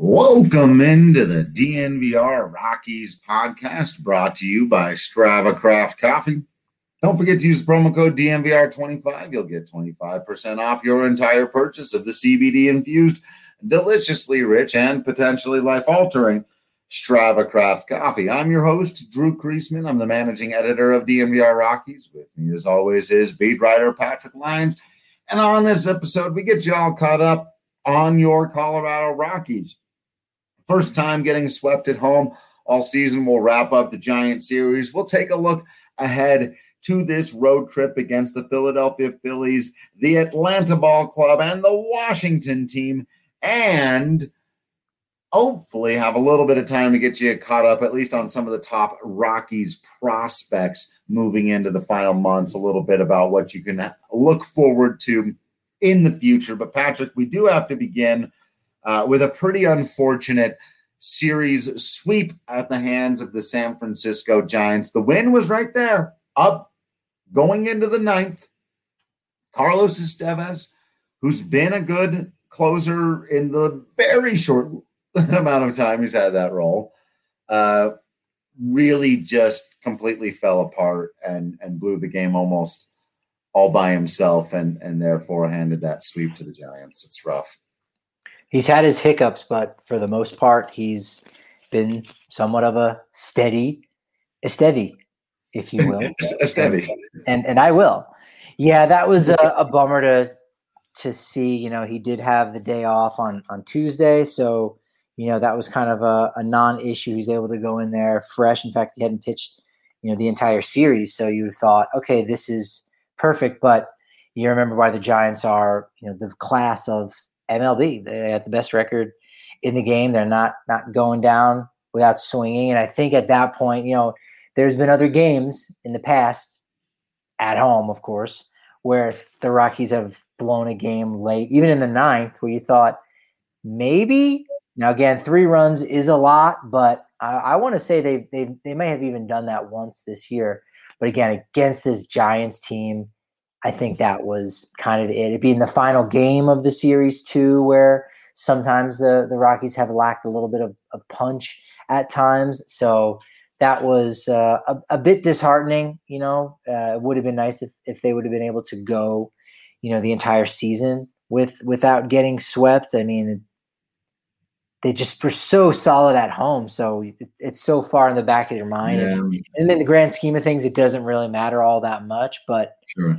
Welcome into the DNVR Rockies podcast brought to you by Strava Craft Coffee. Don't forget to use the promo code DNVR25. You'll get 25% off your entire purchase of the CBD-infused, deliciously rich, and potentially life-altering Strava Craft Coffee. I'm your host, Drew Kreisman. I'm the managing editor of DNVR Rockies. With me, as always, is beat writer Patrick Lyons. And on this episode, we get you all caught up on your Colorado Rockies. First time getting swept at home all season. We'll wrap up the Giant series. We'll take a look ahead to this road trip against the Philadelphia Phillies, the Atlanta Ball Club, and the Washington team, and hopefully have a little bit of time to get you caught up at least on some of the top Rockies prospects moving into the final months, a little bit about what you can look forward to in the future. But Patrick, we do have to begin with a pretty unfortunate series sweep at the hands of the San Francisco Giants. The win was right there, up, going into the ninth. Carlos Estevez, who's been a good closer in the very short amount of time he's had that role, really just completely fell apart and blew the game almost all by himself and therefore handed that sweep to the Giants. It's rough. He's had his hiccups, but for the most part, he's been somewhat of a steady Esteve, if you will. Esteve. And I will. Yeah, that was a bummer to see. You know, he did have the day off on Tuesday, so, you know, that was kind of a non-issue. He's able to go in there fresh. In fact, he hadn't pitched, you know, the entire series, so you thought, okay, this is perfect. But you remember why the Giants are, you know, the class of MLB. They have the best record in the game. They're not going down without swinging. And I think at that point, you know, there's been other games in the past, at home, of course, where the Rockies have blown a game late, even in the ninth, where you thought maybe. Now, again, 3 runs is a lot, but I want to say they may have even done that once this year. But again, against this Giants team, I think that was kind of it. It'd be in the final game of the series too, where sometimes the Rockies have lacked a little bit of punch at times. So that was a bit disheartening. You know, it would have been nice if they would have been able to go, you know, the entire season without getting swept. I mean, they just were so solid at home. So it's so far in the back of your mind. Yeah. And in the grand scheme of things, it doesn't really matter all that much. But Sure.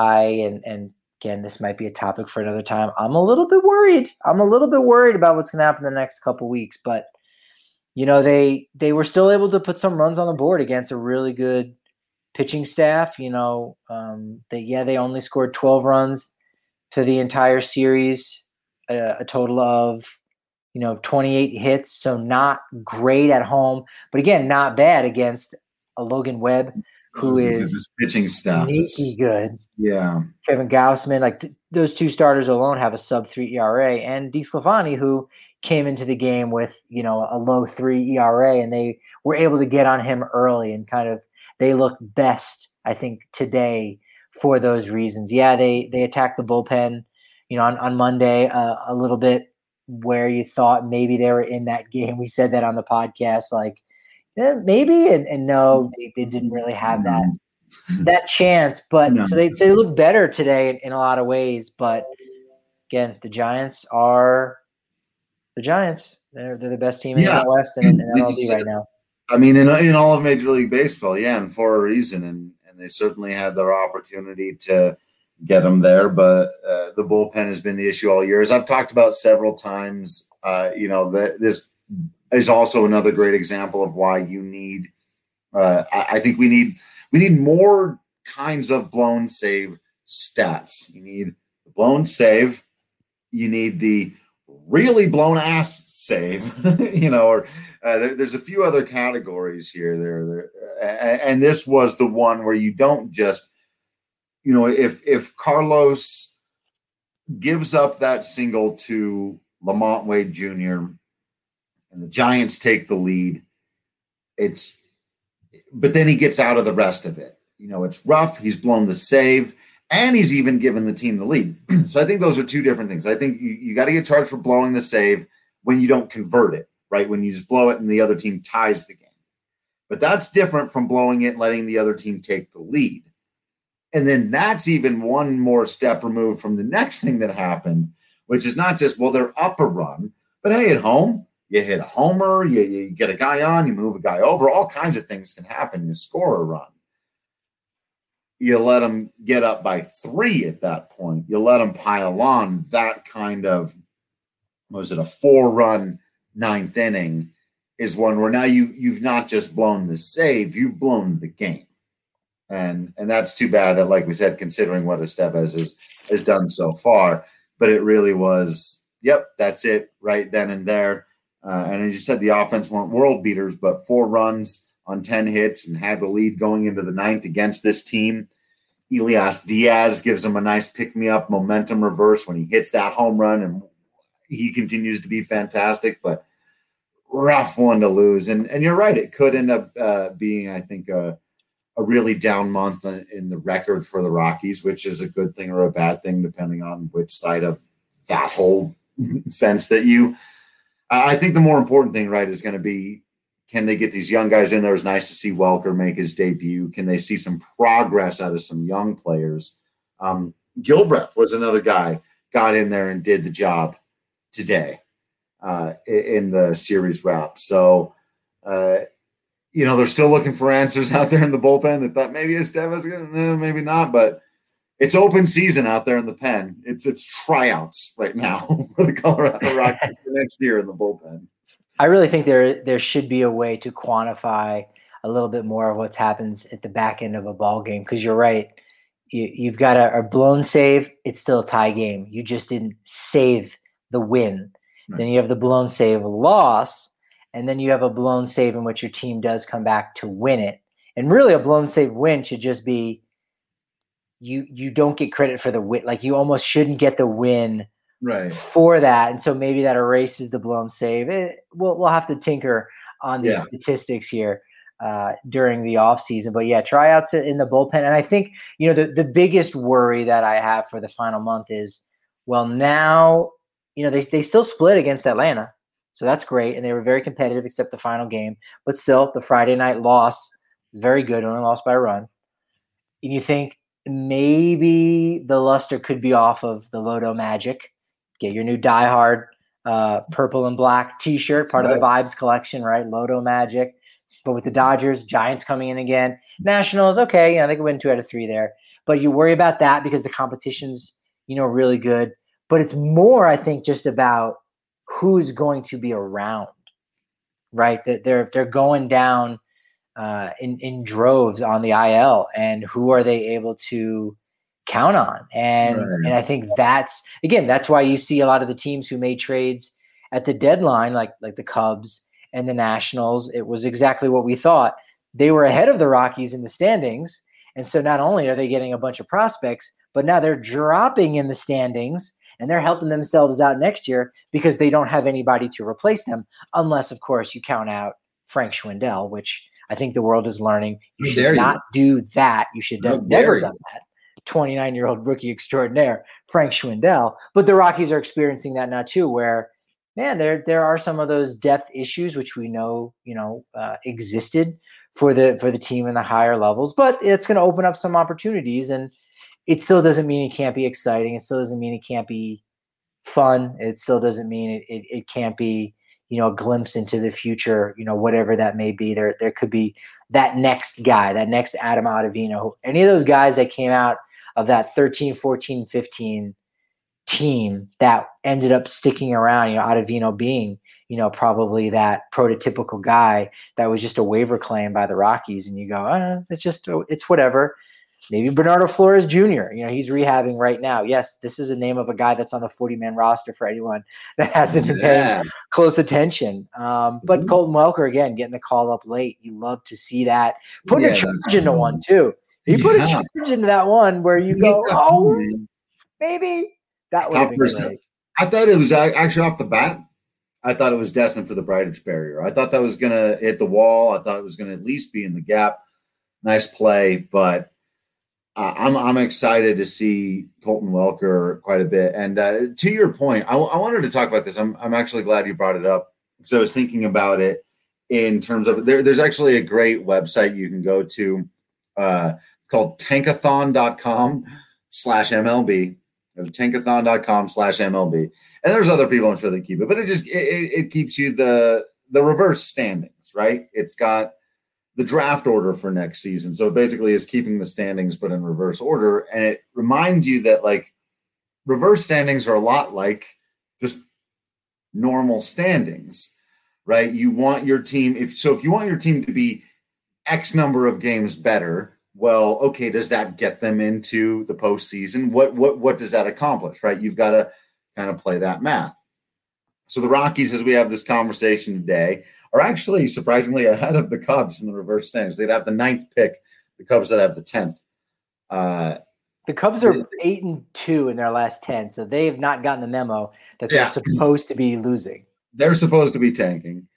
and again, this might be a topic for another time. I'm a little bit worried. About what's going to happen in the next couple of weeks. But, you know, they were still able to put some runs on the board against a really good pitching staff. You know, they only scored 12 runs for the entire series, a total of, you know, 28 hits. So not great at home, but again, not bad against a Logan Webb, who is this pitching staff sneaky good. Yeah. Kevin Gausman, like those 2 starters alone have a sub-3 ERA, and DeSclafani, who came into the game with, you know, a low 3 ERA, and they were able to get on him early and kind of they look best, I think, today for those reasons. Yeah, they attacked the bullpen, you know, on Monday a little bit where you thought maybe they were in that game. We said that on the podcast, like, maybe, and no, they didn't really have that chance. But so they look better today in a lot of ways. But again, the Giants are the Giants. They're the best team in the West and in MLB right now. I mean, in all of Major League Baseball, yeah, and for a reason. And they certainly had their opportunity to get them there. But the bullpen has been the issue all year. As I've talked about several times, you know, this is also another great example of why you need I think we need more kinds of blown save stats. You need the blown save, you need the really blown ass save, you know, or there's a few other categories here and this was the one where you don't just, you know, if Carlos gives up that single to Lamont Wade Jr. and the Giants take the lead, but then he gets out of the rest of it. You know, it's rough. He's blown the save, and he's even given the team the lead. So I think those are two different things. I think you got to get charged for blowing the save. when you don't convert it, right? When you just blow it and the other team ties the game. But that's different from blowing it and letting the other team take the lead. And then that's even one more step removed from the next thing that happened, which is not just, well, they're up a run, but hey, at home, you hit a homer, you get a guy on, you move a guy over, all kinds of things can happen. You score a run. You let them get up by 3 at that point. You let them pile on that kind of, was it a 4-run 9th inning is one where now you've not just blown the save, you've blown the game. And that's too bad, like we said, considering what Estevez has done so far. But it really was, yep, that's it right then and there. And as you said, the offense weren't world beaters, but 4 runs on 10 hits and had the lead going into the 9th against this team. Elias Diaz gives him a nice pick-me-up momentum reverse when he hits that home run, and he continues to be fantastic, but rough one to lose. And you're right, it could end up being, I think, a really down month in the record for the Rockies, which is a good thing or a bad thing, depending on which side of that whole fence that you – I think the more important thing, right, is going to be, can they get these young guys in there? It was nice to see Welker make his debut. Can they see some progress out of some young players? Gilbreth was another guy, got in there and did the job today in the series wrap. So, they're still looking for answers out there in the bullpen. They thought maybe Estevez, maybe not, but it's open season out there in the pen. It's tryouts right now for the Colorado Rockies for next year in the bullpen. I really think there should be a way to quantify a little bit more of what happens at the back end of a ball game, because you're right. You've got a blown save. It's still a tie game. You just didn't save the win. Right. Then you have the blown save loss, and then you have a blown save in which your team does come back to win it. And really a blown save win should just be you don't get credit for the win. Like, you almost shouldn't get the win right for that. And so maybe that erases the blown save. We'll have to tinker on these statistics here during the offseason. But yeah, tryouts in the bullpen. And I think, the biggest worry that I have for the final month is, well, now, they still split against Atlanta. So that's great. And they were very competitive except the final game. But still, the Friday night loss, very good, only lost by a run. And you think maybe the luster could be off of the Lodo Magic. Get your new diehard purple and black T-shirt, part of the Vibes collection, right? Lodo Magic. But with the Dodgers, Giants coming in again. Nationals, okay, they could win 2 out of 3 there. But you worry about that because the competition's, really good. But it's more, I think, just about who's going to be around, right? They're going down in droves on the IL, and who are they able to count on? And I think that's why you see a lot of the teams who made trades at the deadline, like the Cubs and the Nationals. It was exactly what we thought. They were ahead of the Rockies in the standings, and so not only are they getting a bunch of prospects, but now they're dropping in the standings, and they're helping themselves out next year because they don't have anybody to replace them, unless, of course, you count out Frank Schwindel, which I think the world is learning. You should not do that. You should have never done that. 29-year-old rookie extraordinaire, Frank Schwindel. But the Rockies are experiencing that now too, where, man, there are some of those depth issues which we know, existed for the team in the higher levels. But it's going to open up some opportunities, and it still doesn't mean it can't be exciting. It still doesn't mean it can't be fun. It still doesn't mean it can't be, a glimpse into the future, whatever that may be. There could be that next guy, that next Adam Ottavino, any of those guys that came out of that 13, 14, 15 team that ended up sticking around, Ottavino being, probably that prototypical guy that was just a waiver claim by the Rockies. And you go, it's whatever. Maybe Bernardo Flores Jr., he's rehabbing right now. Yes, this is a name of a guy that's on the 40-man roster for anyone that hasn't been paying close attention. But Colton Welker, again, getting the call up late. You love to see that. Putting a charge into one, too. He put a charge into that one where you go, maybe. That would have been great. I thought it was actually off the bat. I thought it was destined for the Bridge barrier. I thought that was going to hit the wall. I thought it was going to at least be in the gap. Nice play, but I'm excited to see Colton Welker quite a bit. And to your point, I wanted to talk about this. I'm actually glad you brought it up. So I was thinking about it in terms of there's actually a great website you can go to called tankathon.com/MLB. Tankathon.com/MLB. And there's other people I'm sure that keep it, but it keeps you the reverse standings, right? It's got the draft order for next season. So it basically is keeping the standings, but in reverse order. And it reminds you that like reverse standings are a lot like just normal standings, right? You want your team, if you want your team to be X number of games better, well, okay, does that get them into the postseason? What does that accomplish, right? You've got to kind of play that math. So the Rockies, as we have this conversation today, are actually surprisingly ahead of the Cubs in the reverse standings. They'd have the 9th pick, the Cubs that have the 10th. The Cubs are 8-2 in their last 10, so they have not gotten the memo that they're supposed to be losing. They're supposed to be tanking,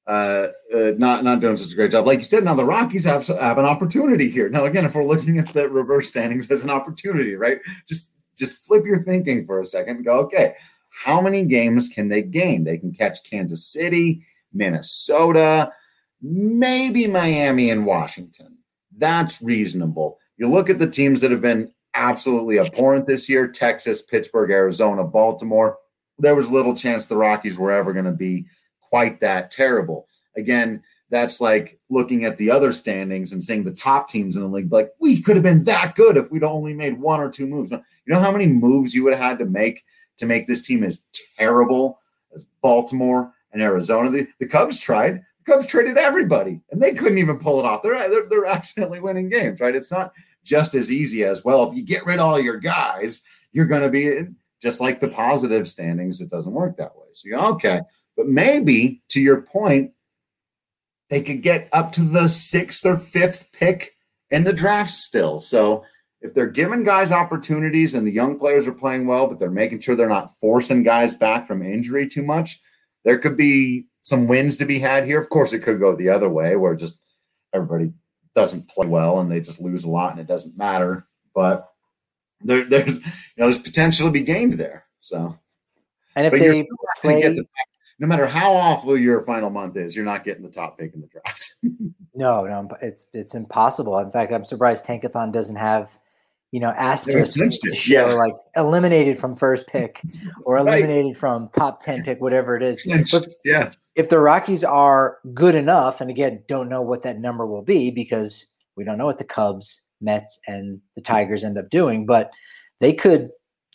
not doing such a great job. Like you said, now the Rockies have an opportunity here. Now, again, if we're looking at the reverse standings as an opportunity, right, just flip your thinking for a second and go, okay, how many games can they gain? They can catch Kansas City, Minnesota, maybe Miami and Washington. That's reasonable. You look at the teams that have been absolutely abhorrent this year, Texas, Pittsburgh, Arizona, Baltimore. There was little chance the Rockies were ever going to be quite that terrible. Again, that's like looking at the other standings and seeing the top teams in the league, like we could have been that good if we'd only made 1 or 2 moves. Now, you know how many moves you would have had to make this team as terrible as Baltimore and Arizona? The Cubs tried. The Cubs traded everybody, and they couldn't even pull it off. They're accidentally winning games, right? It's not just as easy as, well, if you get rid of all your guys, you're going to be just like the positive standings. It doesn't work that way. So you go, okay. But maybe, to your point, they could get up to the 6th or 5th pick in the draft still. So if they're giving guys opportunities and the young players are playing well, but they're making sure they're not forcing guys back from injury too much, there could be some wins to be had here. Of course, it could go the other way where just everybody doesn't play well and they just lose a lot and it doesn't matter. But there's potential to be gained there. So, and if they play, no matter how awful your final month is, you're not getting the top pick in the draft. No, it's impossible. In fact, I'm surprised Tankathon doesn't have, asterisks to show like eliminated from first pick or eliminated from top 10 pick, whatever it is. But if the Rockies are good enough, and again, don't know what that number will be because we don't know what the Cubs, Mets, and the Tigers end up doing, but they could,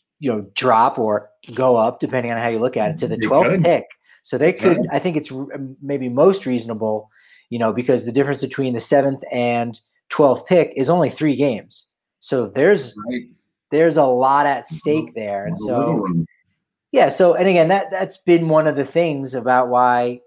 drop or go up depending on how you look at it to the 12th pick. So they could, I think it's maybe most reasonable, because the difference between the 7th and 12th pick is only 3 games. So there's a lot at stake there. And so, and again, that's been one of the things about why,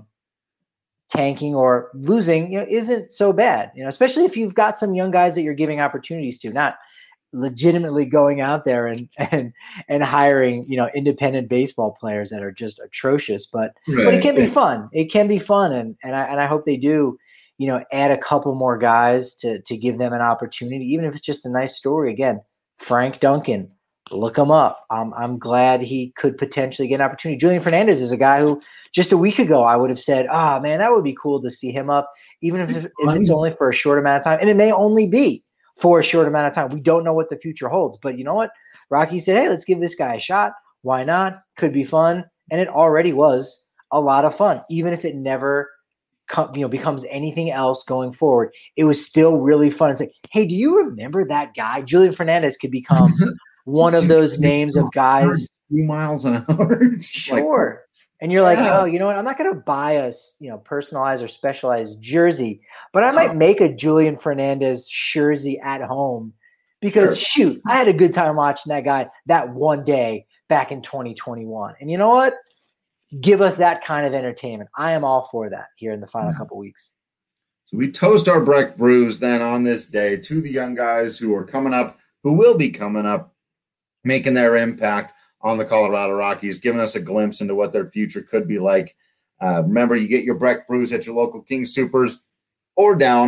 tanking or losing, isn't so bad, especially if you've got some young guys that you're giving opportunities to, not legitimately going out there and hiring, independent baseball players that are just atrocious, but it can be fun. It can be fun. And I hope they do, add a couple more guys to give them an opportunity, even if it's just a nice story. Again, Frank Duncan, look him up. I'm glad he could potentially get an opportunity. Julian Fernandez is a guy who just a week ago I would have said, oh man, that would be cool to see him up, even if it's only for a short amount of time. And it may only be for a short amount of time. We don't know what the future holds, but you know what? Rocky said, hey, let's give this guy a shot. Why not? Could be fun. And it already was a lot of fun. Even if it never becomes anything else going forward, it was still really fun. It's like, hey, do you remember that guy? Julian Fernandez could become one of those names of guys. 3 miles an hour. Sure. And you're like, oh, you know what? I'm not going to buy a personalized or specialized jersey, but I might make a Julian Fernandez jersey at home because, shoot, I had a good time watching that guy that one day back in 2021. And you know what? Give us that kind of entertainment. I am all for that here in the final couple weeks. So we toast our Breck Brews then on this day to the young guys who are coming up, who will be coming up, making their impact on the Colorado Rockies, giving us a glimpse into what their future could be like. Remember, you get your Breck Brews at your local King Soopers or down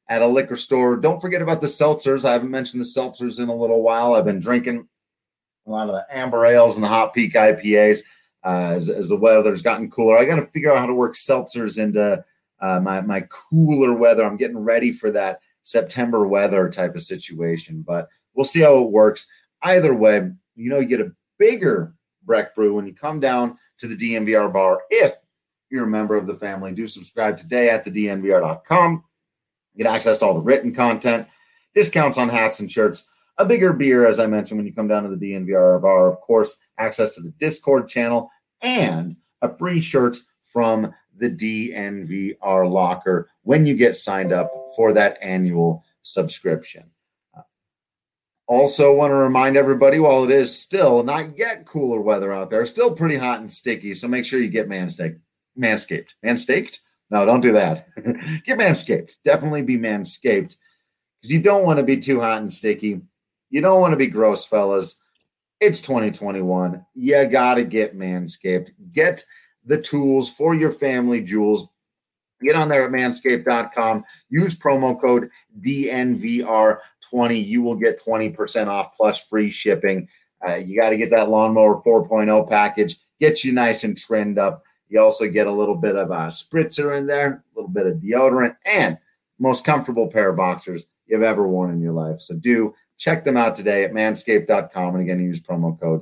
at a liquor store. Don't forget about the seltzers. I haven't mentioned the seltzers in a little while. I've been drinking a lot of the amber ales and the Hot Peak IPAs as the weather's gotten cooler. I got to figure out how to work seltzers into my cooler weather. I'm getting ready for that September weather type of situation, but we'll see how it works. Either way, you get a bigger Breck Brew when you come down to the DNVR bar. If you're a member of the family, do subscribe today at thednvr.com. Get access to all the written content, discounts on hats and shirts, a bigger beer, as I mentioned, when you come down to the DNVR bar. Of course, access to the Discord channel and a free shirt from the DNVR locker when you get signed up for that annual subscription. Also want to remind everybody, while it is still not yet cooler weather out there, still pretty hot and sticky, so make sure you get Manscaped. Manscaped? No, don't do that. Get Manscaped. Definitely be Manscaped, because you don't want to be too hot and sticky. You don't want to be gross, fellas. It's 2021. You got to get Manscaped. Get the tools for your family jewels. Get on there at manscaped.com. Use promo code DNVR20. You will get 20% off plus free shipping. You got to get that Lawnmower 4.0 package. Get you nice and trimmed up. You also get a little bit of a spritzer in there, a little bit of deodorant, and most comfortable pair of boxers you've ever worn in your life. So do check them out today at manscaped.com. And again, use promo code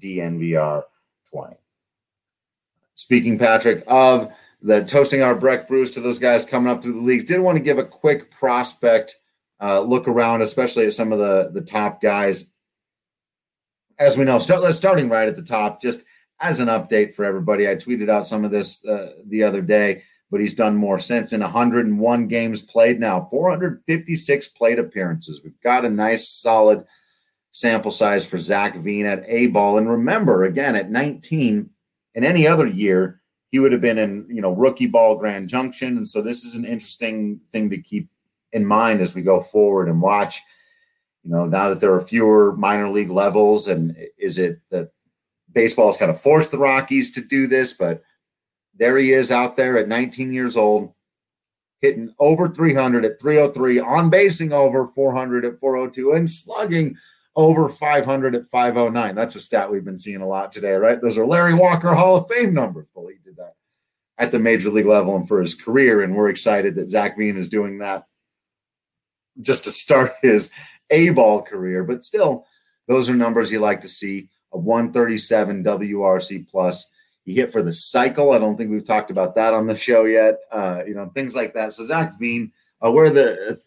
DNVR20. Speaking, Patrick, of the toasting our Breck Brews to those guys coming up through the leagues, did want to give a quick prospect look around, especially at some of the top guys. As we know, starting right at the top, just as an update for everybody, I tweeted out some of this the other day, but he's done more since. In 101 games played now, 456 plate appearances. We've got a nice, solid sample size for Zach Veen at A-ball. And remember, again, at 19, in any other year, he would have been in, rookie ball Grand Junction. And so this is an interesting thing to keep in mind as we go forward and watch, now that there are fewer minor league levels. And is it that baseball has kind of forced the Rockies to do this? But there he is out there at 19 years old, hitting over 300 at 303, on basing over 400 at 402, and slugging over 500 at 509. That's a stat we've been seeing a lot today, right? Those are Larry Walker Hall of Fame numbers. Well, he did that at the major league level and for his career, and we're excited that Zach Veen is doing that just to start his A-ball career. But still, those are numbers you like to see. A 137 WRC plus. He hit for the cycle. I don't think we've talked about that on the show yet. Things like that. So Zach Veen, we're the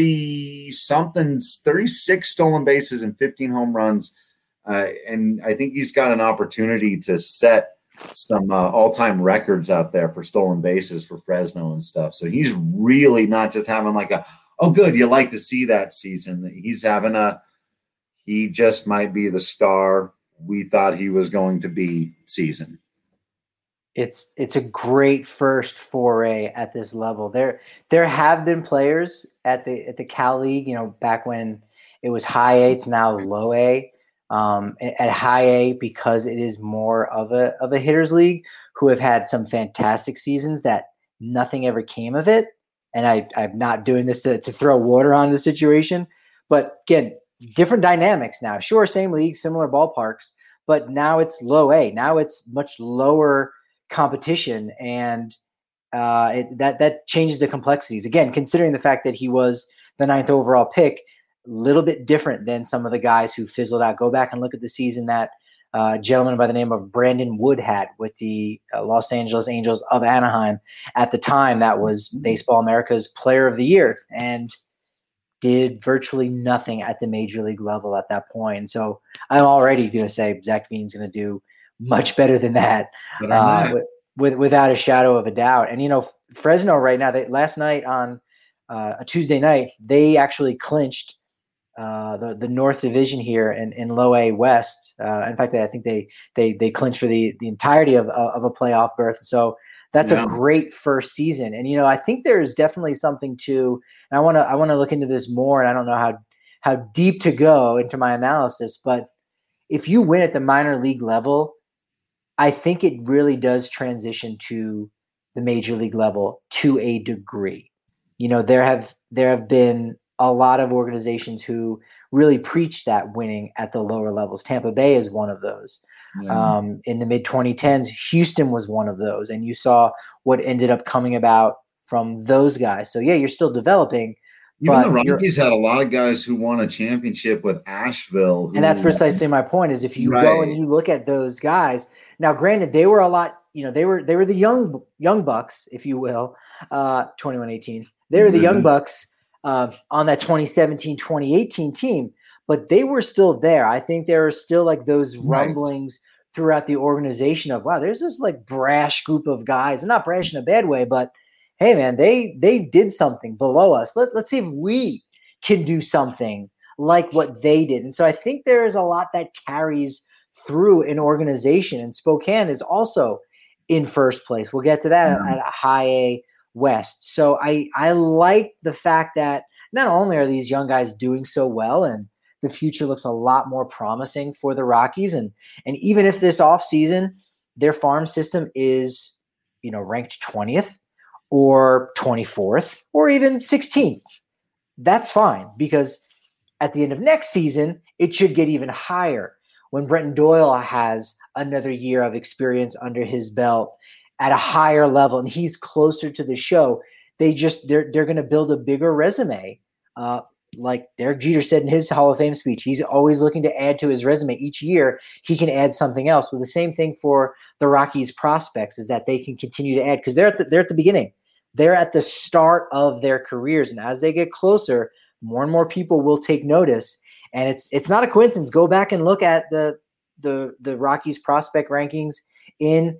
36 stolen bases and 15 home runs. And I think he's got an opportunity to set some all-time records out there for stolen bases for Fresno and stuff. So he's really not just having like good, you like to see that season. He's having he just might be the star we thought he was going to be season. It's a great first foray at this level. There have been players at the Cal League, back when it was high A, it's now low A. At high A, because it is more of a hitters league, who have had some fantastic seasons that nothing ever came of it. And I'm not doing this to throw water on the situation, but again, different dynamics now. Sure, same league, similar ballparks, but now it's low A. Now it's much lower competition, and that changes the complexities. Again, considering the fact that he was the 9th overall pick, a little bit different than some of the guys who fizzled out. Go back and look at the season that gentleman by the name of Brandon Wood had with the Los Angeles Angels of Anaheim. At the time, that was Baseball America's Player of the Year, and did virtually nothing at the major league level at that point. And so I'm already going to say Zach Veen's going to do much better than that, without a shadow of a doubt. And, Fresno right now, last night on a Tuesday night, they actually clinched the North Division here in Low A West. In fact, I think they clinched for the entirety of a playoff berth. So that's a great first season. And, I think there's definitely something to, and I want to look into this more, and I don't know how deep to go into my analysis, but if you win at the minor league level, I think it really does transition to the major league level to a degree. there have been a lot of organizations who really preach that winning at the lower levels. Tampa Bay is one of those. Yeah. In the mid 2010s, Houston was one of those, and you saw what ended up coming about from those guys. So yeah, you're still developing. Even the Rockies had a lot of guys who won a championship with Asheville. And that's precisely my point, is if you go and you look at those guys, now granted, they were a lot, they were the young bucks, if you will, 21-18. They were the young bucks on that 2017-2018 team, but they were still there. I think there are still like those rumblings throughout the organization of, wow, there's this like brash group of guys, and not brash in a bad way, but hey man, they did something below us. Let's see if we can do something like what they did. And so I think there is a lot that carries through an organization, and Spokane is also in first place. We'll get to that at a high A West. So I like the fact that not only are these young guys doing so well, and the future looks a lot more promising for the Rockies. And even if this offseason their farm system is, ranked 20th or 24th or even 16th, that's fine, because at the end of next season, it should get even higher when Brenton Doyle has another year of experience under his belt at a higher level, and he's closer to the show. They're going to build a bigger resume. Like Derek Jeter said in his Hall of Fame speech, he's always looking to add to his resume. Each year, he can add something else. Well, the same thing for the Rockies prospects is that they can continue to add, because they're at the beginning. They're at the start of their careers, and as they get closer, more and more people will take notice. And it's not a coincidence. Go back and look at the Rockies prospect rankings in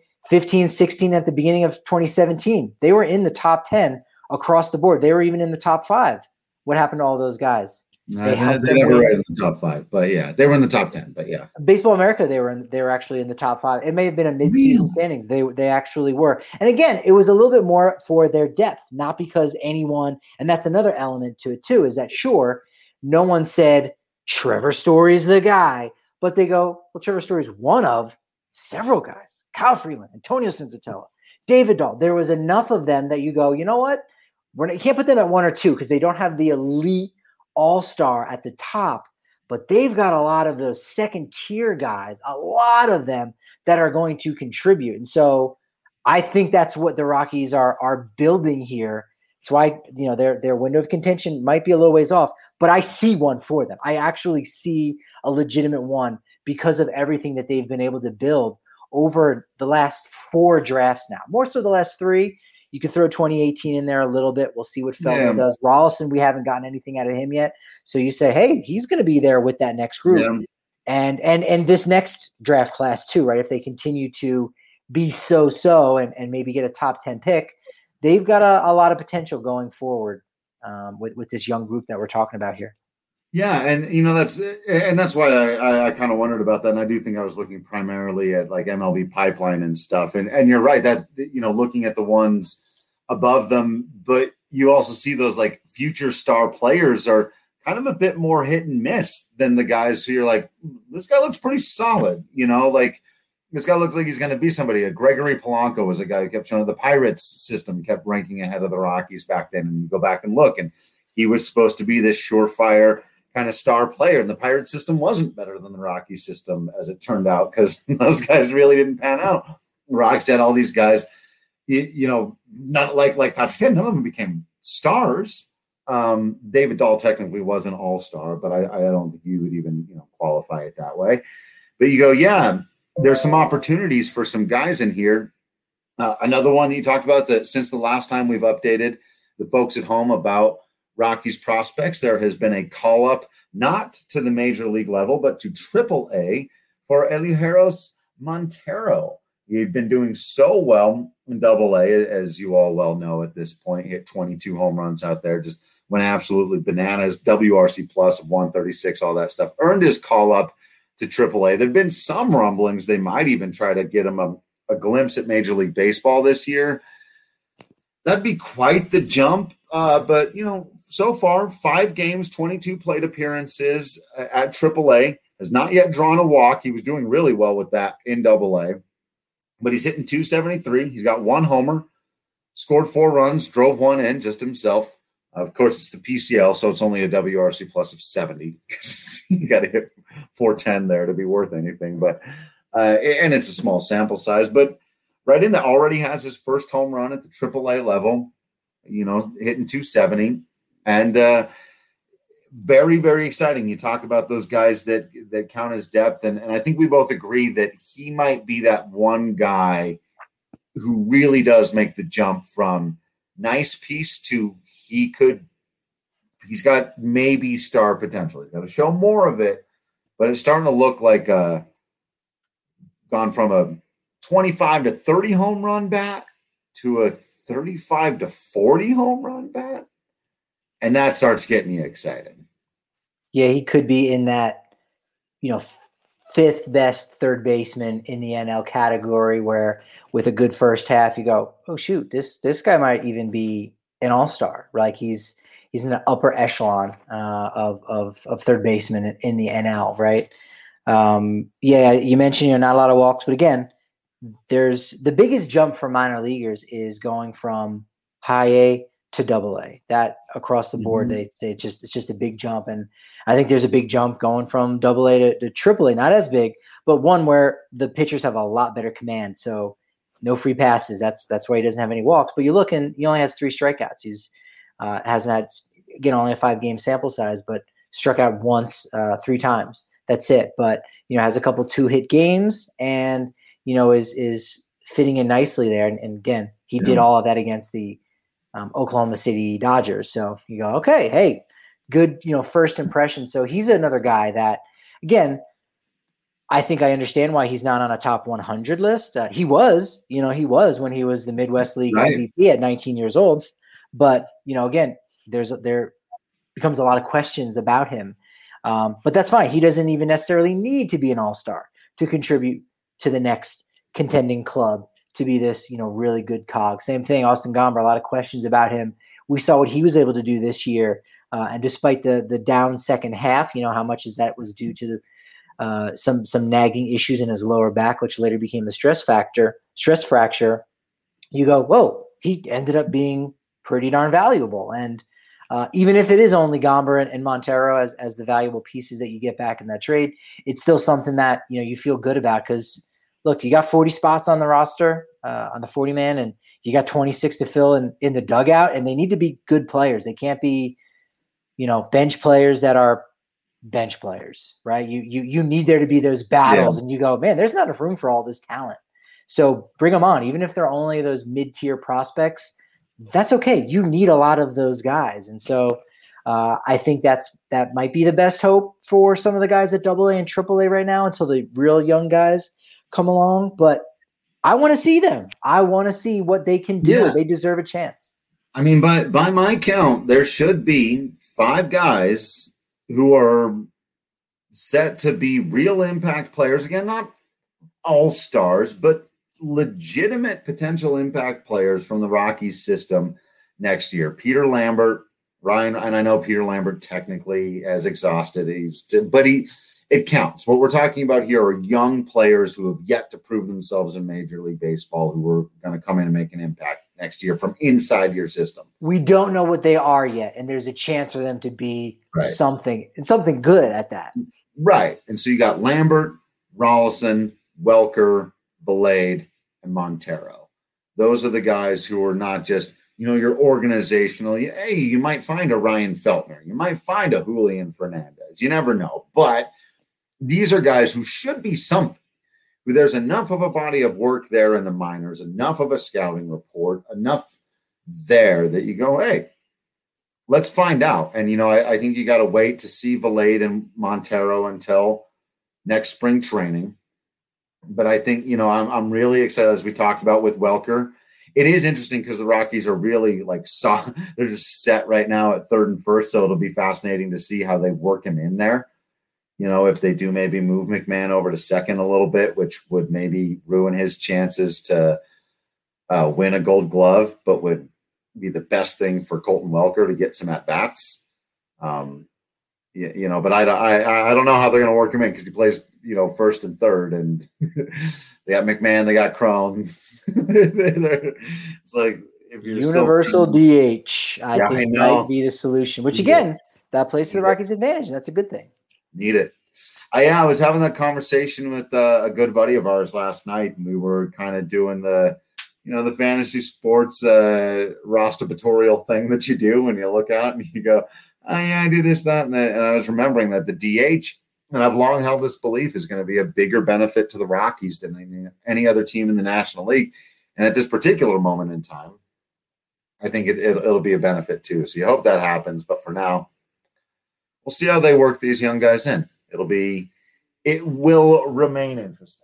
15-16 at the beginning of 2017. They were in the top 10 across the board. They were even in the top 5. What happened to all those guys? They never were in the top 5, but yeah, they were in the top 10. But yeah, Baseball America, they were actually in the top 5. It may have been a mid-season standings. They actually were. And again, it was a little bit more for their depth, not because anyone. And that's another element to it too. Is that sure, no one said Trevor Story's the guy, but they go, well, Trevor Story's one of several guys: Kyle Freeland, Antonio Senzatella, David Dahl. There was enough of them that you go, you know what? You can't put them at 1 or 2 because they don't have the elite all-star at the top, but they've got a lot of those second-tier guys, a lot of them that are going to contribute. And so I think that's what the Rockies are building here. That's why, their window of contention might be a little ways off, but I see one for them. I actually see a legitimate one because of everything that they've been able to build over the last 4 drafts now. More so the last 3. You could throw 2018 in there a little bit. We'll see what Feldman does. Rolison, we haven't gotten anything out of him yet. So you say, hey, he's going to be there with that next group. Yeah. And this next draft class too, right? If they continue to be so and maybe get a top 10 pick, they've got a lot of potential going forward with this young group that we're talking about here. Yeah, and that's why I kind of wondered about that. And I do think I was looking primarily at like MLB pipeline and stuff. And you're right that looking at the ones above them, but you also see those like future star players are kind of a bit more hit and miss than the guys who you're like, this guy looks pretty solid. Like this guy looks like he's going to be somebody. Gregory Polanco was a guy who kept showing the Pirates system kept ranking ahead of the Rockies back then. And you go back and look, and he was supposed to be this surefire kind of star player, and the Pirates system wasn't better than the Rockies system, as it turned out, because those guys really didn't pan out. The Rockies had all these guys, not like Patrick said, none of them became stars. David Dahl technically was an all-star, but I don't think you would even qualify it that way. But you go, yeah, there's some opportunities for some guys in here. Another one that you talked about, that since the last time we've updated the folks at home about Rockies prospects, there has been a call up not to the major league level, but to AAA for Elehuris Montero. He'd been doing so well in AA, as you all well know at this point. He hit 22 home runs out there, just went absolutely bananas. WRC plus of 136, all that stuff. Earned his call up to AAA. There've been some rumblings they might even try to get him a glimpse at Major League Baseball this year. That'd be quite the jump. But, so far, 5 games, 22 plate appearances at AAA. Has not yet drawn a walk. He was doing really well with that in AA. But he's hitting .273. He's got 1 homer, scored 4 runs, drove 1 in just himself. Of course, it's the PCL, so it's only a WRC plus of 70. You got to hit 410 there to be worth anything. But and it's a small sample size. But right in that already has his first home run at the AAA level, hitting 270. And very, very exciting. You talk about those guys that count as depth. And I think we both agree that he might be that one guy who really does make the jump from nice piece to he's got maybe star potential. He's got to show more of it, but it's starting to look like gone from a 25 to 30 home run bat to a 35 to 40 home run bat. And that starts getting you excited. Yeah, he could be in that, fifth best third baseman in the NL category, where with a good first half, you go, oh shoot, this guy might even be an all-star. Like he's in the upper echelon of third baseman in the NL, right? Yeah, you mentioned not a lot of walks, but again, there's the biggest jump for minor leaguers is going from high A to double A. That across the board, they say it's just a big jump, and I think there's a big jump going from double A to triple A. Not as big, but one where the pitchers have a lot better command. So no free passes. That's why he doesn't have any walks. But you look, and he only has 3 strikeouts. He's hasn't had, again, only a 5-game sample size, but struck out once 3 times. That's it. But has a couple 2-hit games, and is fitting in nicely there. And again, he did all of that against the Oklahoma City Dodgers. So you go, okay, hey, good, first impression. So he's another guy that, again, I think I understand why he's not on a top 100 list. He was when he was the Midwest League MVP at 19 years old. But, again, there becomes a lot of questions about him. But that's fine. He doesn't even necessarily need to be an all-star to contribute to the next contending club, to be this, really good cog. Same thing, Austin Gomber, a lot of questions about him. We saw what he was able to do this year. And despite the down second half, how much is that was due to some nagging issues in his lower back, which later became the stress fracture. You go, whoa, he ended up being pretty darn valuable. And even if it is only Gomber and Montero as the valuable pieces that you get back in that trade, it's still something that, you feel good about, because look, you got 40 spots on the roster, on the 40-man, and you got 26 to fill in the dugout, and they need to be good players. They can't be, bench players that are bench players, right? You need there to be those battles, and you go, man, there's not enough room for all this talent. So bring them on, even if they're only those mid-tier prospects. That's okay. You need a lot of those guys, and so I think that might be the best hope for some of the guys at AA and AAA right now until the real young guys come along. But I want to see them. I want to see what they can do. Yeah. They deserve a chance. I mean, by my count, there should be 5 guys who are set to be real impact players. Again, not all stars, but legitimate potential impact players from the Rockies system next year. Peter Lambert, Ryan, and I know Peter Lambert technically has exhausted, but it counts. What we're talking about here are young players who have yet to prove themselves in Major League Baseball, who are going to come in and make an impact next year from inside your system. We don't know what they are yet, and there's a chance for them to be something good at that. Right. And so you got Lambert, Rolison, Welker, Valade, and Montero. Those are the guys who are not just, your organizational. Hey, you might find a Ryan Feltner. You might find a Julian Fernandez. You never know. But these are guys who should be something. Who there's enough of a body of work there in the minors, enough of a scouting report, enough there that you go, hey, let's find out. And, I think you got to wait to see Valade and Montero until next spring training. But I think, I'm really excited, as we talked about with Welker. It is interesting because the Rockies are really they're just set right now at third and first. So it'll be fascinating to see how they work him in there. If they do maybe move McMahon over to second a little bit, which would maybe ruin his chances to win a Gold Glove, but would be the best thing for Colton Welker to get some at-bats. But I don't know how they're going to work him in because he plays, first and third, and they got McMahon, they got Cron. It's like, if you're universal DH, I think might be the solution. Which again, that plays to the Rockies' advantage. That's a good thing. Need it. I was having that conversation with a good buddy of ours last night, and we were kind of doing the fantasy sports rostatorial thing that you do when you look out and you go, oh, yeah, I do this, that, and that. And I was remembering that the DH, and I've long held this belief, is going to be a bigger benefit to the Rockies than any other team in the National League. And at this particular moment in time, I think it'll be a benefit too. So you hope that happens. But for now, we'll see how they work these young guys in. It will remain interesting.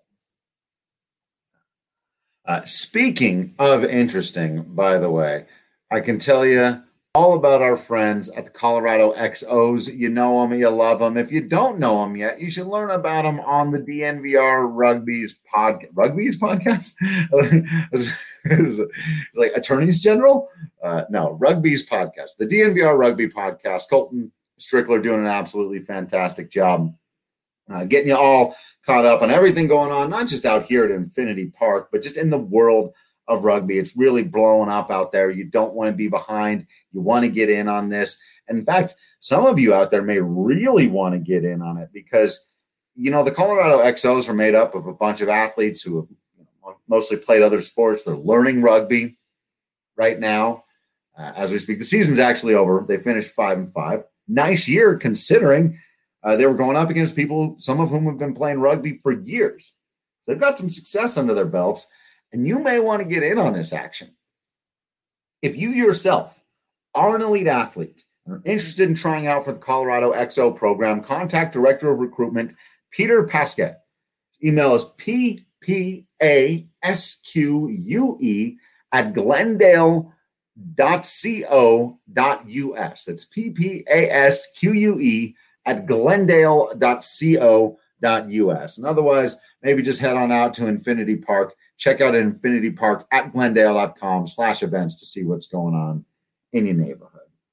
Speaking of interesting, by the way, I can tell you all about our friends at the Colorado XOs. You know them, you love them. If you don't know them yet, you should learn about them on the DNVR Rugby's podcast. Is like Attorneys General? No, Rugby's podcast. The DNVR Rugby podcast. Colton Strickler doing an absolutely fantastic job getting you all caught up on everything going on, not just out here at Infinity Park, but just in the world of rugby. It's really blowing up out there. You don't want to be behind. You want to get in on this. And in fact, some of you out there may really want to get in on it because, the Colorado XOs are made up of a bunch of athletes who have mostly played other sports. They're learning rugby right now as we speak. The season's actually over. They finished 5-5. Nice year considering they were going up against people, some of whom have been playing rugby for years. So they've got some success under their belts, and you may want to get in on this action. If you yourself are an elite athlete and are interested in trying out for the Colorado XO program, contact Director of Recruitment Peter Pasquet. Email is ppasque@glendale.co.us. That's ppasque@glendale.co.us. And otherwise, maybe just head on out to Infinity Park. Check out Infinity Park at glendale.com/events to see what's going on in your neighborhood.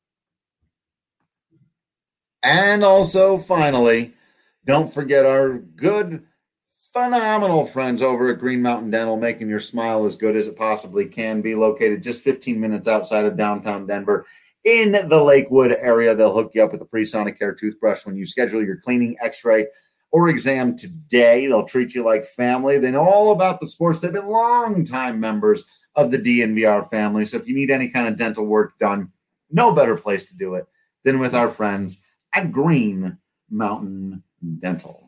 And also, finally, don't forget our good, phenomenal friends over at Green Mountain Dental, making your smile as good as it possibly can be. Located just 15 minutes outside of downtown Denver in the Lakewood area. They'll hook you up with a free Sonicare toothbrush when you schedule your cleaning, x-ray, or exam today. They'll treat you like family. They know all about the sports. They've been longtime members of the DNVR family. So if you need any kind of dental work done, no better place to do it than with our friends at Green Mountain Dental.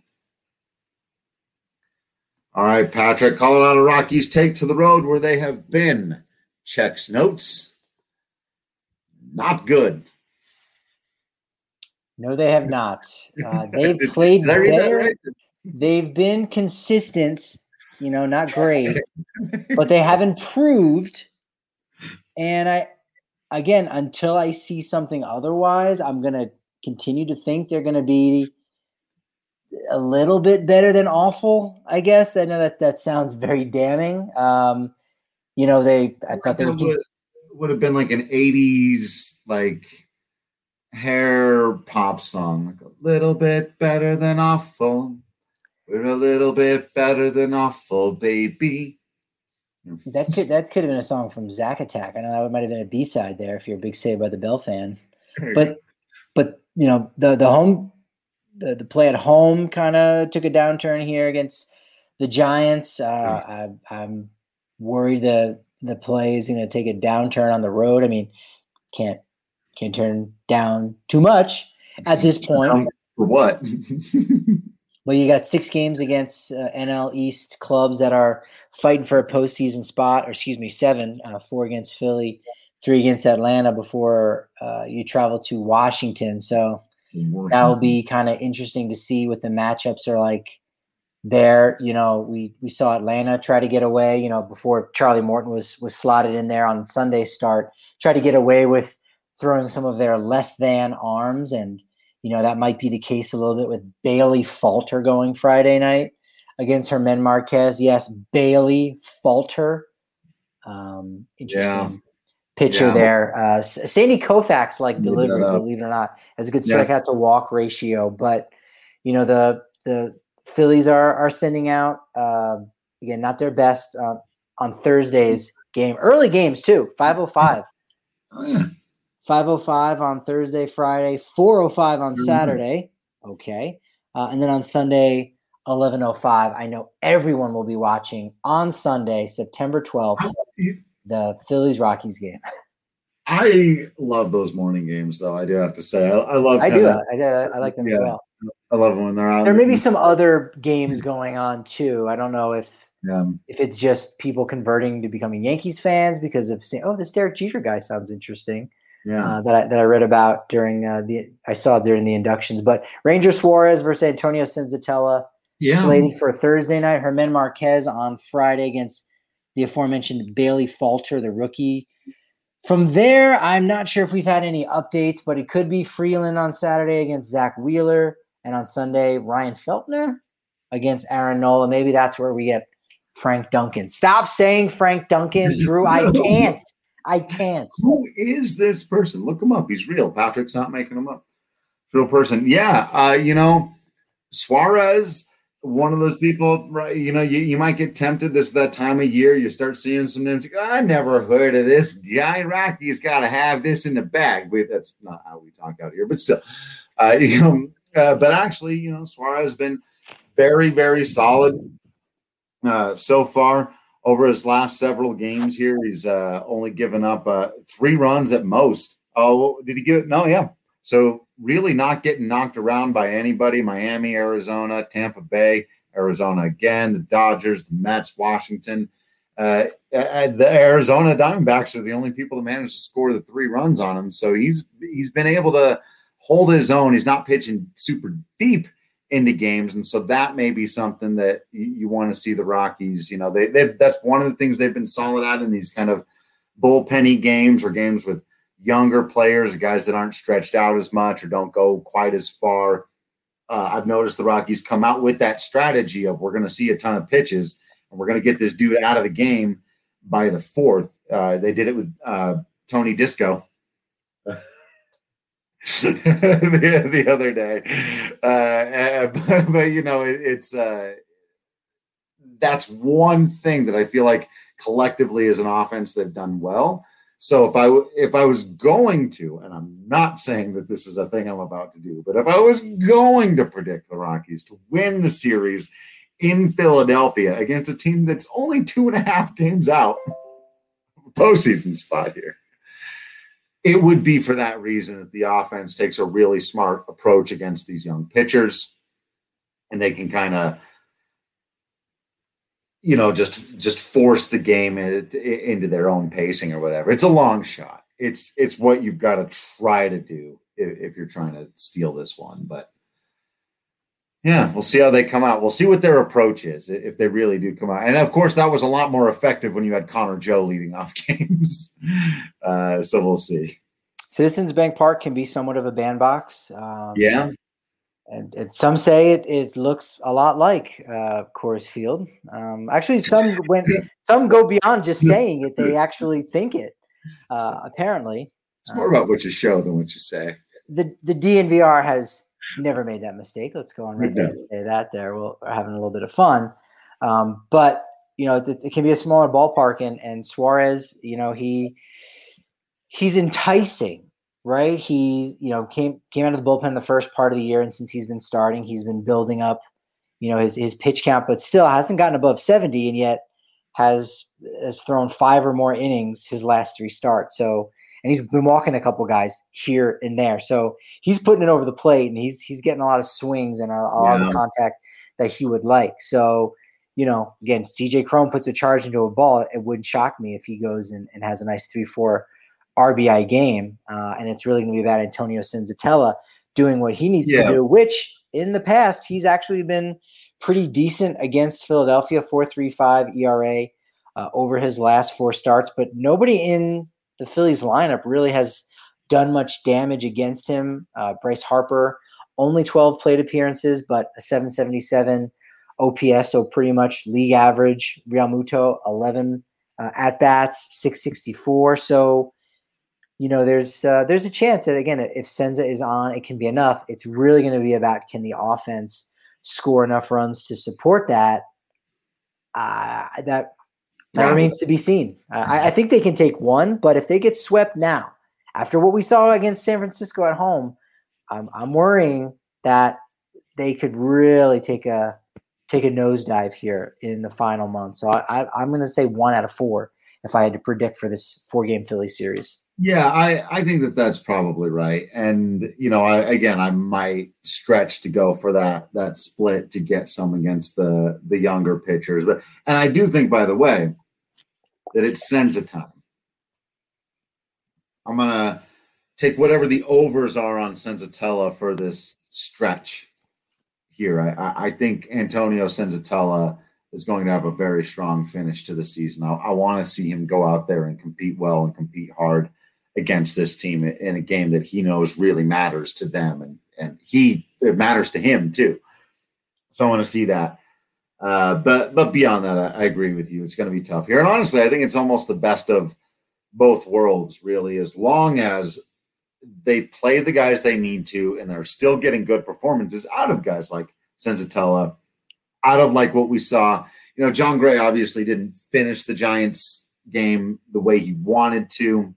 All right, Patrick, Colorado Rockies take to the road where they have been. Checks notes. Not good. No, they have not. They've played better. Right? They've been consistent, not great, but they have improved. And until I see something otherwise, I'm going to continue to think they're going to be a little bit better than awful, I guess. I know that sounds very damning. I thought they would have been like an 80s, hair pop song, like a little bit better than awful. We're a little bit better than awful, baby. That could have been a song from Zack Attack. I know that might have been a B-side there if you're a big Saved by the Bell fan. But the play at home kind of took a downturn here against the Giants. I'm worried the play is going to take a downturn on the road. I mean, can't turn down too much at this point. For what? Well, you got 6 games against NL East clubs that are fighting for a postseason spot, or 7, 4 against Philly, 3 against Atlanta before you travel to Washington. So that will be kind of interesting to see what the matchups are like there. We saw Atlanta try to get away, before Charlie Morton was slotted in there on Sunday's start, try to get away with throwing some of their less than arms. And, that might be the case a little bit with Bailey Falter going Friday night against Herman Marquez. Yes, Bailey Falter. Interesting pitcher there. Sandy Koufax delivery, believe it or not, has a good strikeout to walk ratio. But, the Phillies are sending out, again, not their best on Thursdays game. Early games too. 5:05. Oh, yeah. 5:05 on Thursday, Friday. 4:05 on Saturday. Okay, and then on Sunday, 11:05. I know everyone will be watching on Sunday, September 12th, the Phillies-Rockies game. I love those morning games, though. I do have to say, I love. I do. I like them as well. I love them when they're out. There may be some other games going on too. I don't know if it's just people converting to becoming Yankees fans because of saying, "Oh, this Derek Jeter guy sounds interesting." Yeah, that I read about during I saw during the inductions. But Ranger Suarez versus Antonio Senzatella slated for Thursday night. Germán Marquez on Friday against the aforementioned Bailey Falter, the rookie. From there, I'm not sure if we've had any updates, but it could be Freeland on Saturday against Zach Wheeler, and on Sunday, Ryan Feltner against Aaron Nola. Maybe that's where we get Frank Duncan. Stop saying Frank Duncan, Drew. I can't. Who is this person? Look him up. He's real. Patrick's not making him up. Real person. Yeah. Suarez, one of those people, right? You might get tempted that time of year. You start seeing some names. I never heard of this guy. Rocky's got to have this in the bag. That's not how we talk out here, but still, but actually, Suarez has been very, very solid so far. Over his last several games here, he's only given up 3 runs at most. Oh, did he give it? No, yeah. So really not getting knocked around by anybody. Miami, Arizona, Tampa Bay, Arizona again, the Dodgers, the Mets, Washington. The Arizona Diamondbacks are the only people that managed to score the 3 runs on him. So he's been able to hold his own. He's not pitching super deep into games, and so that may be something that you want to see the Rockies. That's one of the things they've been solid at in these kind of bullpenny games or games with younger players, guys that aren't stretched out as much or don't go quite as far. I've noticed the Rockies come out with that strategy of we're going to see a ton of pitches and we're going to get this dude out of the game by the 4th. They did it with Tony Disco. the other day, but it's that's one thing that I feel like collectively as an offense they've done well. So if I was going to, and I'm not saying that this is a thing I'm about to do, but if I was going to predict the Rockies to win the series in Philadelphia against a team that's only 2.5 games out of a postseason spot here, it would be for that reason that the offense takes a really smart approach against these young pitchers, and they can kind of, just force the game into their own pacing or whatever. It's a long shot. It's what you've got to try to do if you're trying to steal this one. But yeah, we'll see how they come out. We'll see what their approach is if they really do come out. And of course, that was a lot more effective when you had Connor Joe leading off games. So we'll see. Citizens Bank Park can be somewhat of a bandbox. Yeah. And some say it looks a lot like Coors Field. Actually, some go beyond just saying it; they actually think it. Apparently, it's more about what you show than what you say. The DNVR has never made that mistake. Let's go on record and say that. We're having a little bit of fun, but it can be a smaller ballpark, and Suarez, he's enticing. Right. He, came out of the bullpen the first part of the year. And since he's been starting, he's been building up, his pitch count, but still hasn't gotten above 70 and yet has thrown 5 or more innings his last 3 starts. So, and he's been walking a couple guys here and there. So he's putting it over the plate and he's getting a lot of swings and a lot of contact that he would like. So, again, CJ Cron puts a charge into a ball. It wouldn't shock me if he goes and has a nice 3-4 RBI game, and it's really going to be about Antonio Senzatella doing what he needs to do, which in the past he's actually been pretty decent against Philadelphia, 4.35 ERA over his last 4 starts, but nobody in the Phillies lineup really has done much damage against him. Bryce Harper, only 12 plate appearances, but a 777 OPS, so pretty much league average. Realmuto, 11 at-bats, 664, so there's a chance that, again, if Senza is on, it can be enough. It's really going to be about, can the offense score enough runs to support that? That That remains to be seen. I think they can take one, but if they get swept now, after what we saw against San Francisco at home, I'm worrying that they could really take a nosedive here in the final month. So I'm going to say 1 out of 4 if I had to predict for this 4-game Philly series. Yeah, I think that's probably right. And, I might stretch to go for that split to get some against the younger pitchers. And I do think, by the way, that it's Senza time. I'm going to take whatever the overs are on Senzatella for this stretch here. I think Antonio Senzatella is going to have a very strong finish to the season. I want to see him go out there and compete well and compete hard against this team in a game that he knows really matters to them, and it matters to him too. So I want to see that. But beyond that, I agree with you. It's going to be tough here. And honestly, I think it's almost the best of both worlds, really, as long as they play the guys they need to and they're still getting good performances out of guys like Senzatella, out of like what we saw. Jon Gray obviously didn't finish the Giants game the way he wanted to,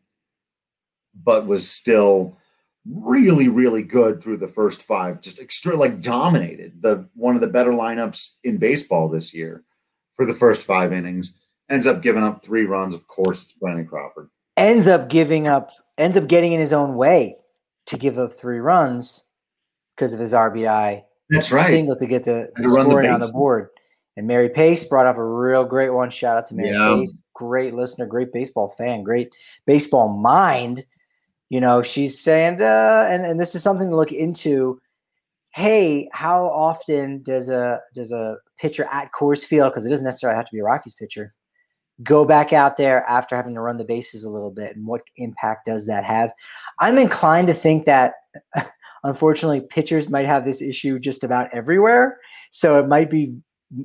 but was still really, really good through the first 5, just dominated one of the better lineups in baseball this year for the first 5 innings. Ends up giving up 3 runs. Of course, it's Brandon Crawford. Ends up getting in his own way to give up 3 runs because of his RBI. That's right. Single to get the scoring on the board. And Mary Pace brought up a real great one. Shout out to Mary Pace. Great listener, great baseball fan, great baseball mind. She's saying, and this is something to look into. Hey, how often does a pitcher at Coors Field, because it doesn't necessarily have to be a Rockies pitcher, go back out there after having to run the bases a little bit, and what impact does that have? I'm inclined to think that, unfortunately, pitchers might have this issue just about everywhere. So it might be,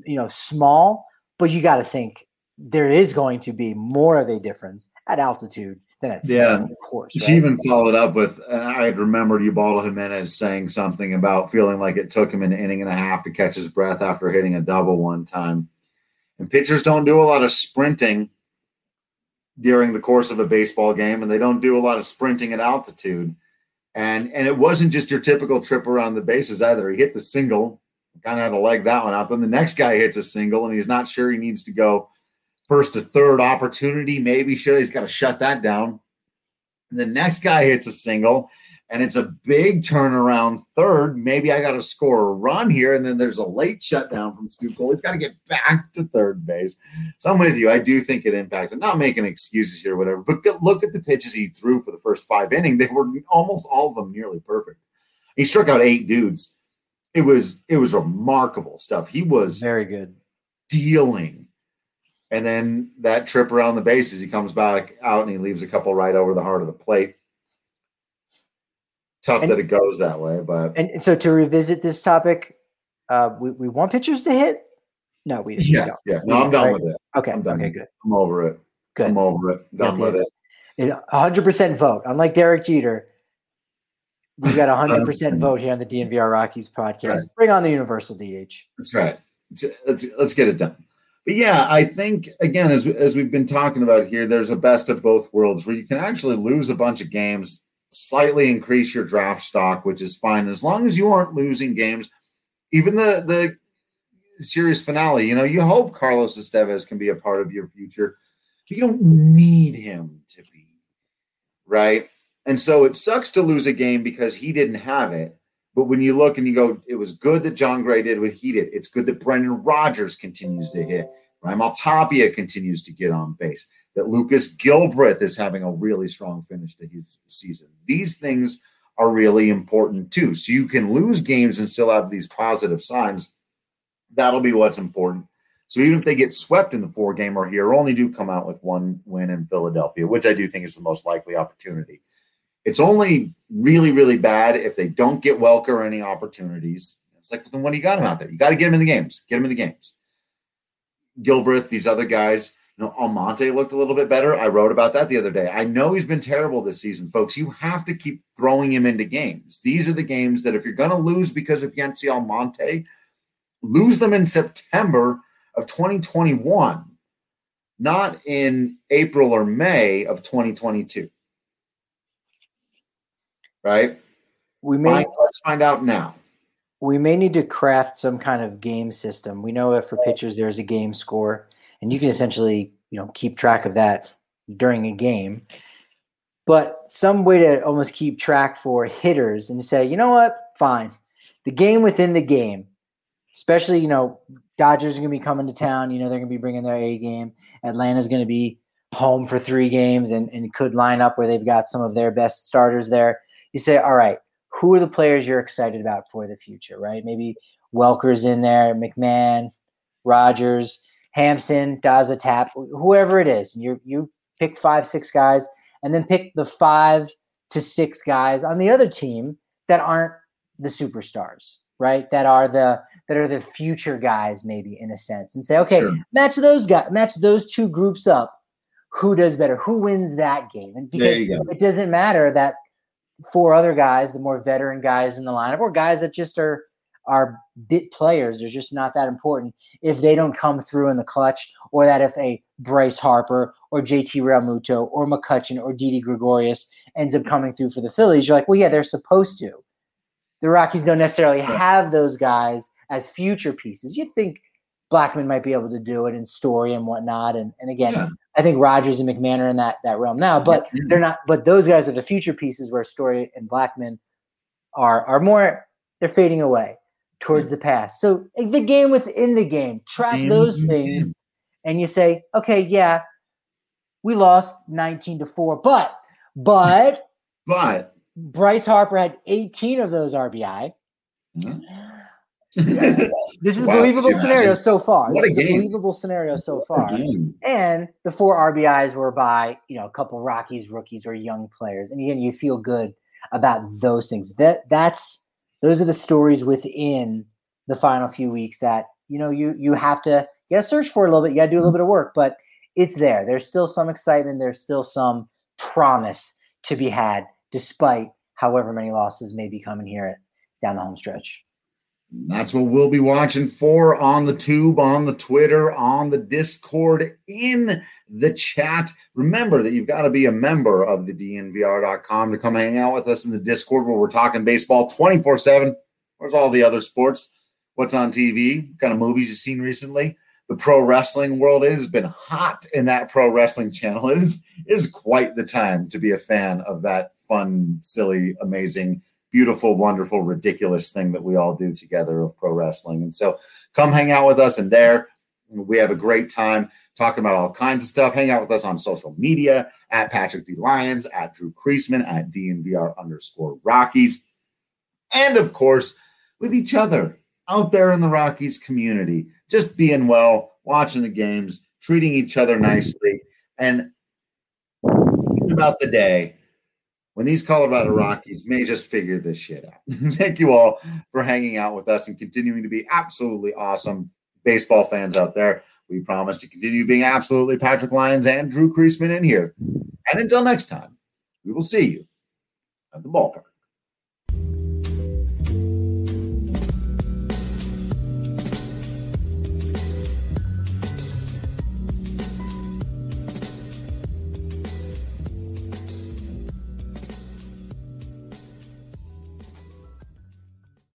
small, but you got to think there is going to be more of a difference at altitude than at sea, of course. Right? She even followed up with, and I had remembered Ubaldo Jimenez saying something about feeling like it took him an inning and a half to catch his breath after hitting a double one time. And pitchers don't do a lot of sprinting during the course of a baseball game, and they don't do a lot of sprinting at altitude. And it wasn't just your typical trip around the bases either. He hit the single, kind of had to leg that one out. Then the next guy hits a single, and he's not sure he needs to go first to third opportunity. Maybe he's got to shut that down. And the next guy hits a single, and it's a big turnaround third. Maybe I got to score a run here, and then there's a late shutdown from Stu Cole. He's got to get back to third base. So I'm with you. I do think it impacted. Not making excuses here or whatever, but look at the pitches he threw for the first 5 innings. They were almost all of them nearly perfect. He struck out 8 dudes. It was remarkable stuff. He was very good dealing. And then that trip around the bases, he comes back out and he leaves a couple right over the heart of the plate. Tough that it goes that way, but so to revisit this topic, we want pitchers to hit. No, we don't. Yeah. No, I'm done with it. Okay. Okay. Good. I'm over it. Good. I'm over it. Done with it. 100% vote. Unlike Derek Jeter, we got 100% vote here on the DNVR Rockies podcast. Right. Bring on the universal DH. That's right. Let's get it done. But yeah, I think, again, as we've been talking about here, there's a best of both worlds where you can actually lose a bunch of games, slightly increase your draft stock, which is fine. As long as you aren't losing games, even the series finale, you hope Carlos Estevez can be a part of your future. You don't need him to be, right? And so it sucks to lose a game because he didn't have it. But when you look and you go, it was good that Jon Gray did what he did. It's good that Brendan Rodgers continues to hit. Raimel Tapia continues to get on base. That Lucas Gilbreth is having a really strong finish to his season. These things are really important too. So you can lose games and still have these positive signs. That'll be what's important. So even if they get swept in the 4-gamer here, only do come out with 1 win in Philadelphia, which I do think is the most likely opportunity. It's only really, really bad if they don't get Welker any opportunities. It's like, then what do you got him out there? You got to get him in the games. Get him in the games. Gilbreth, these other guys, Almonte looked a little bit better. I wrote about that the other day. I know he's been terrible this season, folks. You have to keep throwing him into games. These are the games that if you're going to lose because of Yency Almonte, lose them in September of 2021. not in April or May of 2022. Right? Let's find out now. We may need to craft some kind of game system. We know that for pitchers, there's a game score, and you can essentially, keep track of that during a game. But some way to almost keep track for hitters and say, you know what? Fine. The game within the game, especially, Dodgers are going to be coming to town. They're going to be bringing their A game. Atlanta's going to be home for 3 games and could line up where they've got some of their best starters there. You say, all right, who are the players you're excited about for the future, right? Maybe Welker's in there, McMahon, Rogers, Hampson, Daza Tap, whoever it is. And you pick 5, 6 guys, and then pick the 5 to 6 guys on the other team that aren't the superstars, right? That are the future guys, maybe in a sense, and say, okay, sure. match those 2 groups up. Who does better? Who wins that game? And because it doesn't matter that 4 other guys, the more veteran guys in the lineup, or guys that just are bit players, they're just not that important if they don't come through in the clutch, or that if a Bryce Harper or JT Realmuto or McCutchen or Didi Gregorius ends up coming through for the Phillies, you're like, well, yeah, they're supposed to. The Rockies don't necessarily have those guys as future pieces. You'd think Blackmon might be able to do it in Story and whatnot. And again, I think Rogers and McMahon are in that realm now, but they're not. But those guys are the future pieces where Story and Blackmon are more. They're fading away towards the past. So the game within the game, track those things, and you say, okay, yeah, we lost 19-4, but Bryce Harper had 18 of those RBI. This is a believable scenario so far. What a game. Believable scenario so far. And the 4 RBIs were by, a couple Rockies rookies or young players. And again, you feel good about those things. Those are the stories within the final few weeks that, you have to search for a little bit. You got to do a little bit of work, but it's there. There's still some excitement. There's still some promise to be had, despite however many losses may be coming here down the home stretch. That's what we'll be watching for on the tube, on the Twitter, on the Discord, in the chat. Remember that you've got to be a member of the DNVR.com to come hang out with us in the Discord where we're talking baseball 24/7. Where's all the other sports? What's on TV? What kind of movies you've seen recently? The pro wrestling world, it has been hot in that pro wrestling channel. It is quite the time to be a fan of that fun, silly, amazing, beautiful, wonderful, ridiculous thing that we all do together of pro wrestling. And so come hang out with us in there. We have a great time talking about all kinds of stuff. Hang out with us on social media at Patrick D. Lyons, at Drew Creasman, at DNVR_Rockies. And of course, with each other out there in the Rockies community, just being well, watching the games, treating each other nicely, and thinking about the day when these Colorado Rockies may just figure this shit out. Thank you all for hanging out with us and continuing to be absolutely awesome baseball fans out there. We promise to continue being absolutely Patrick Lyons and Drew Creasman in here. And until next time, we will see you at the ballpark.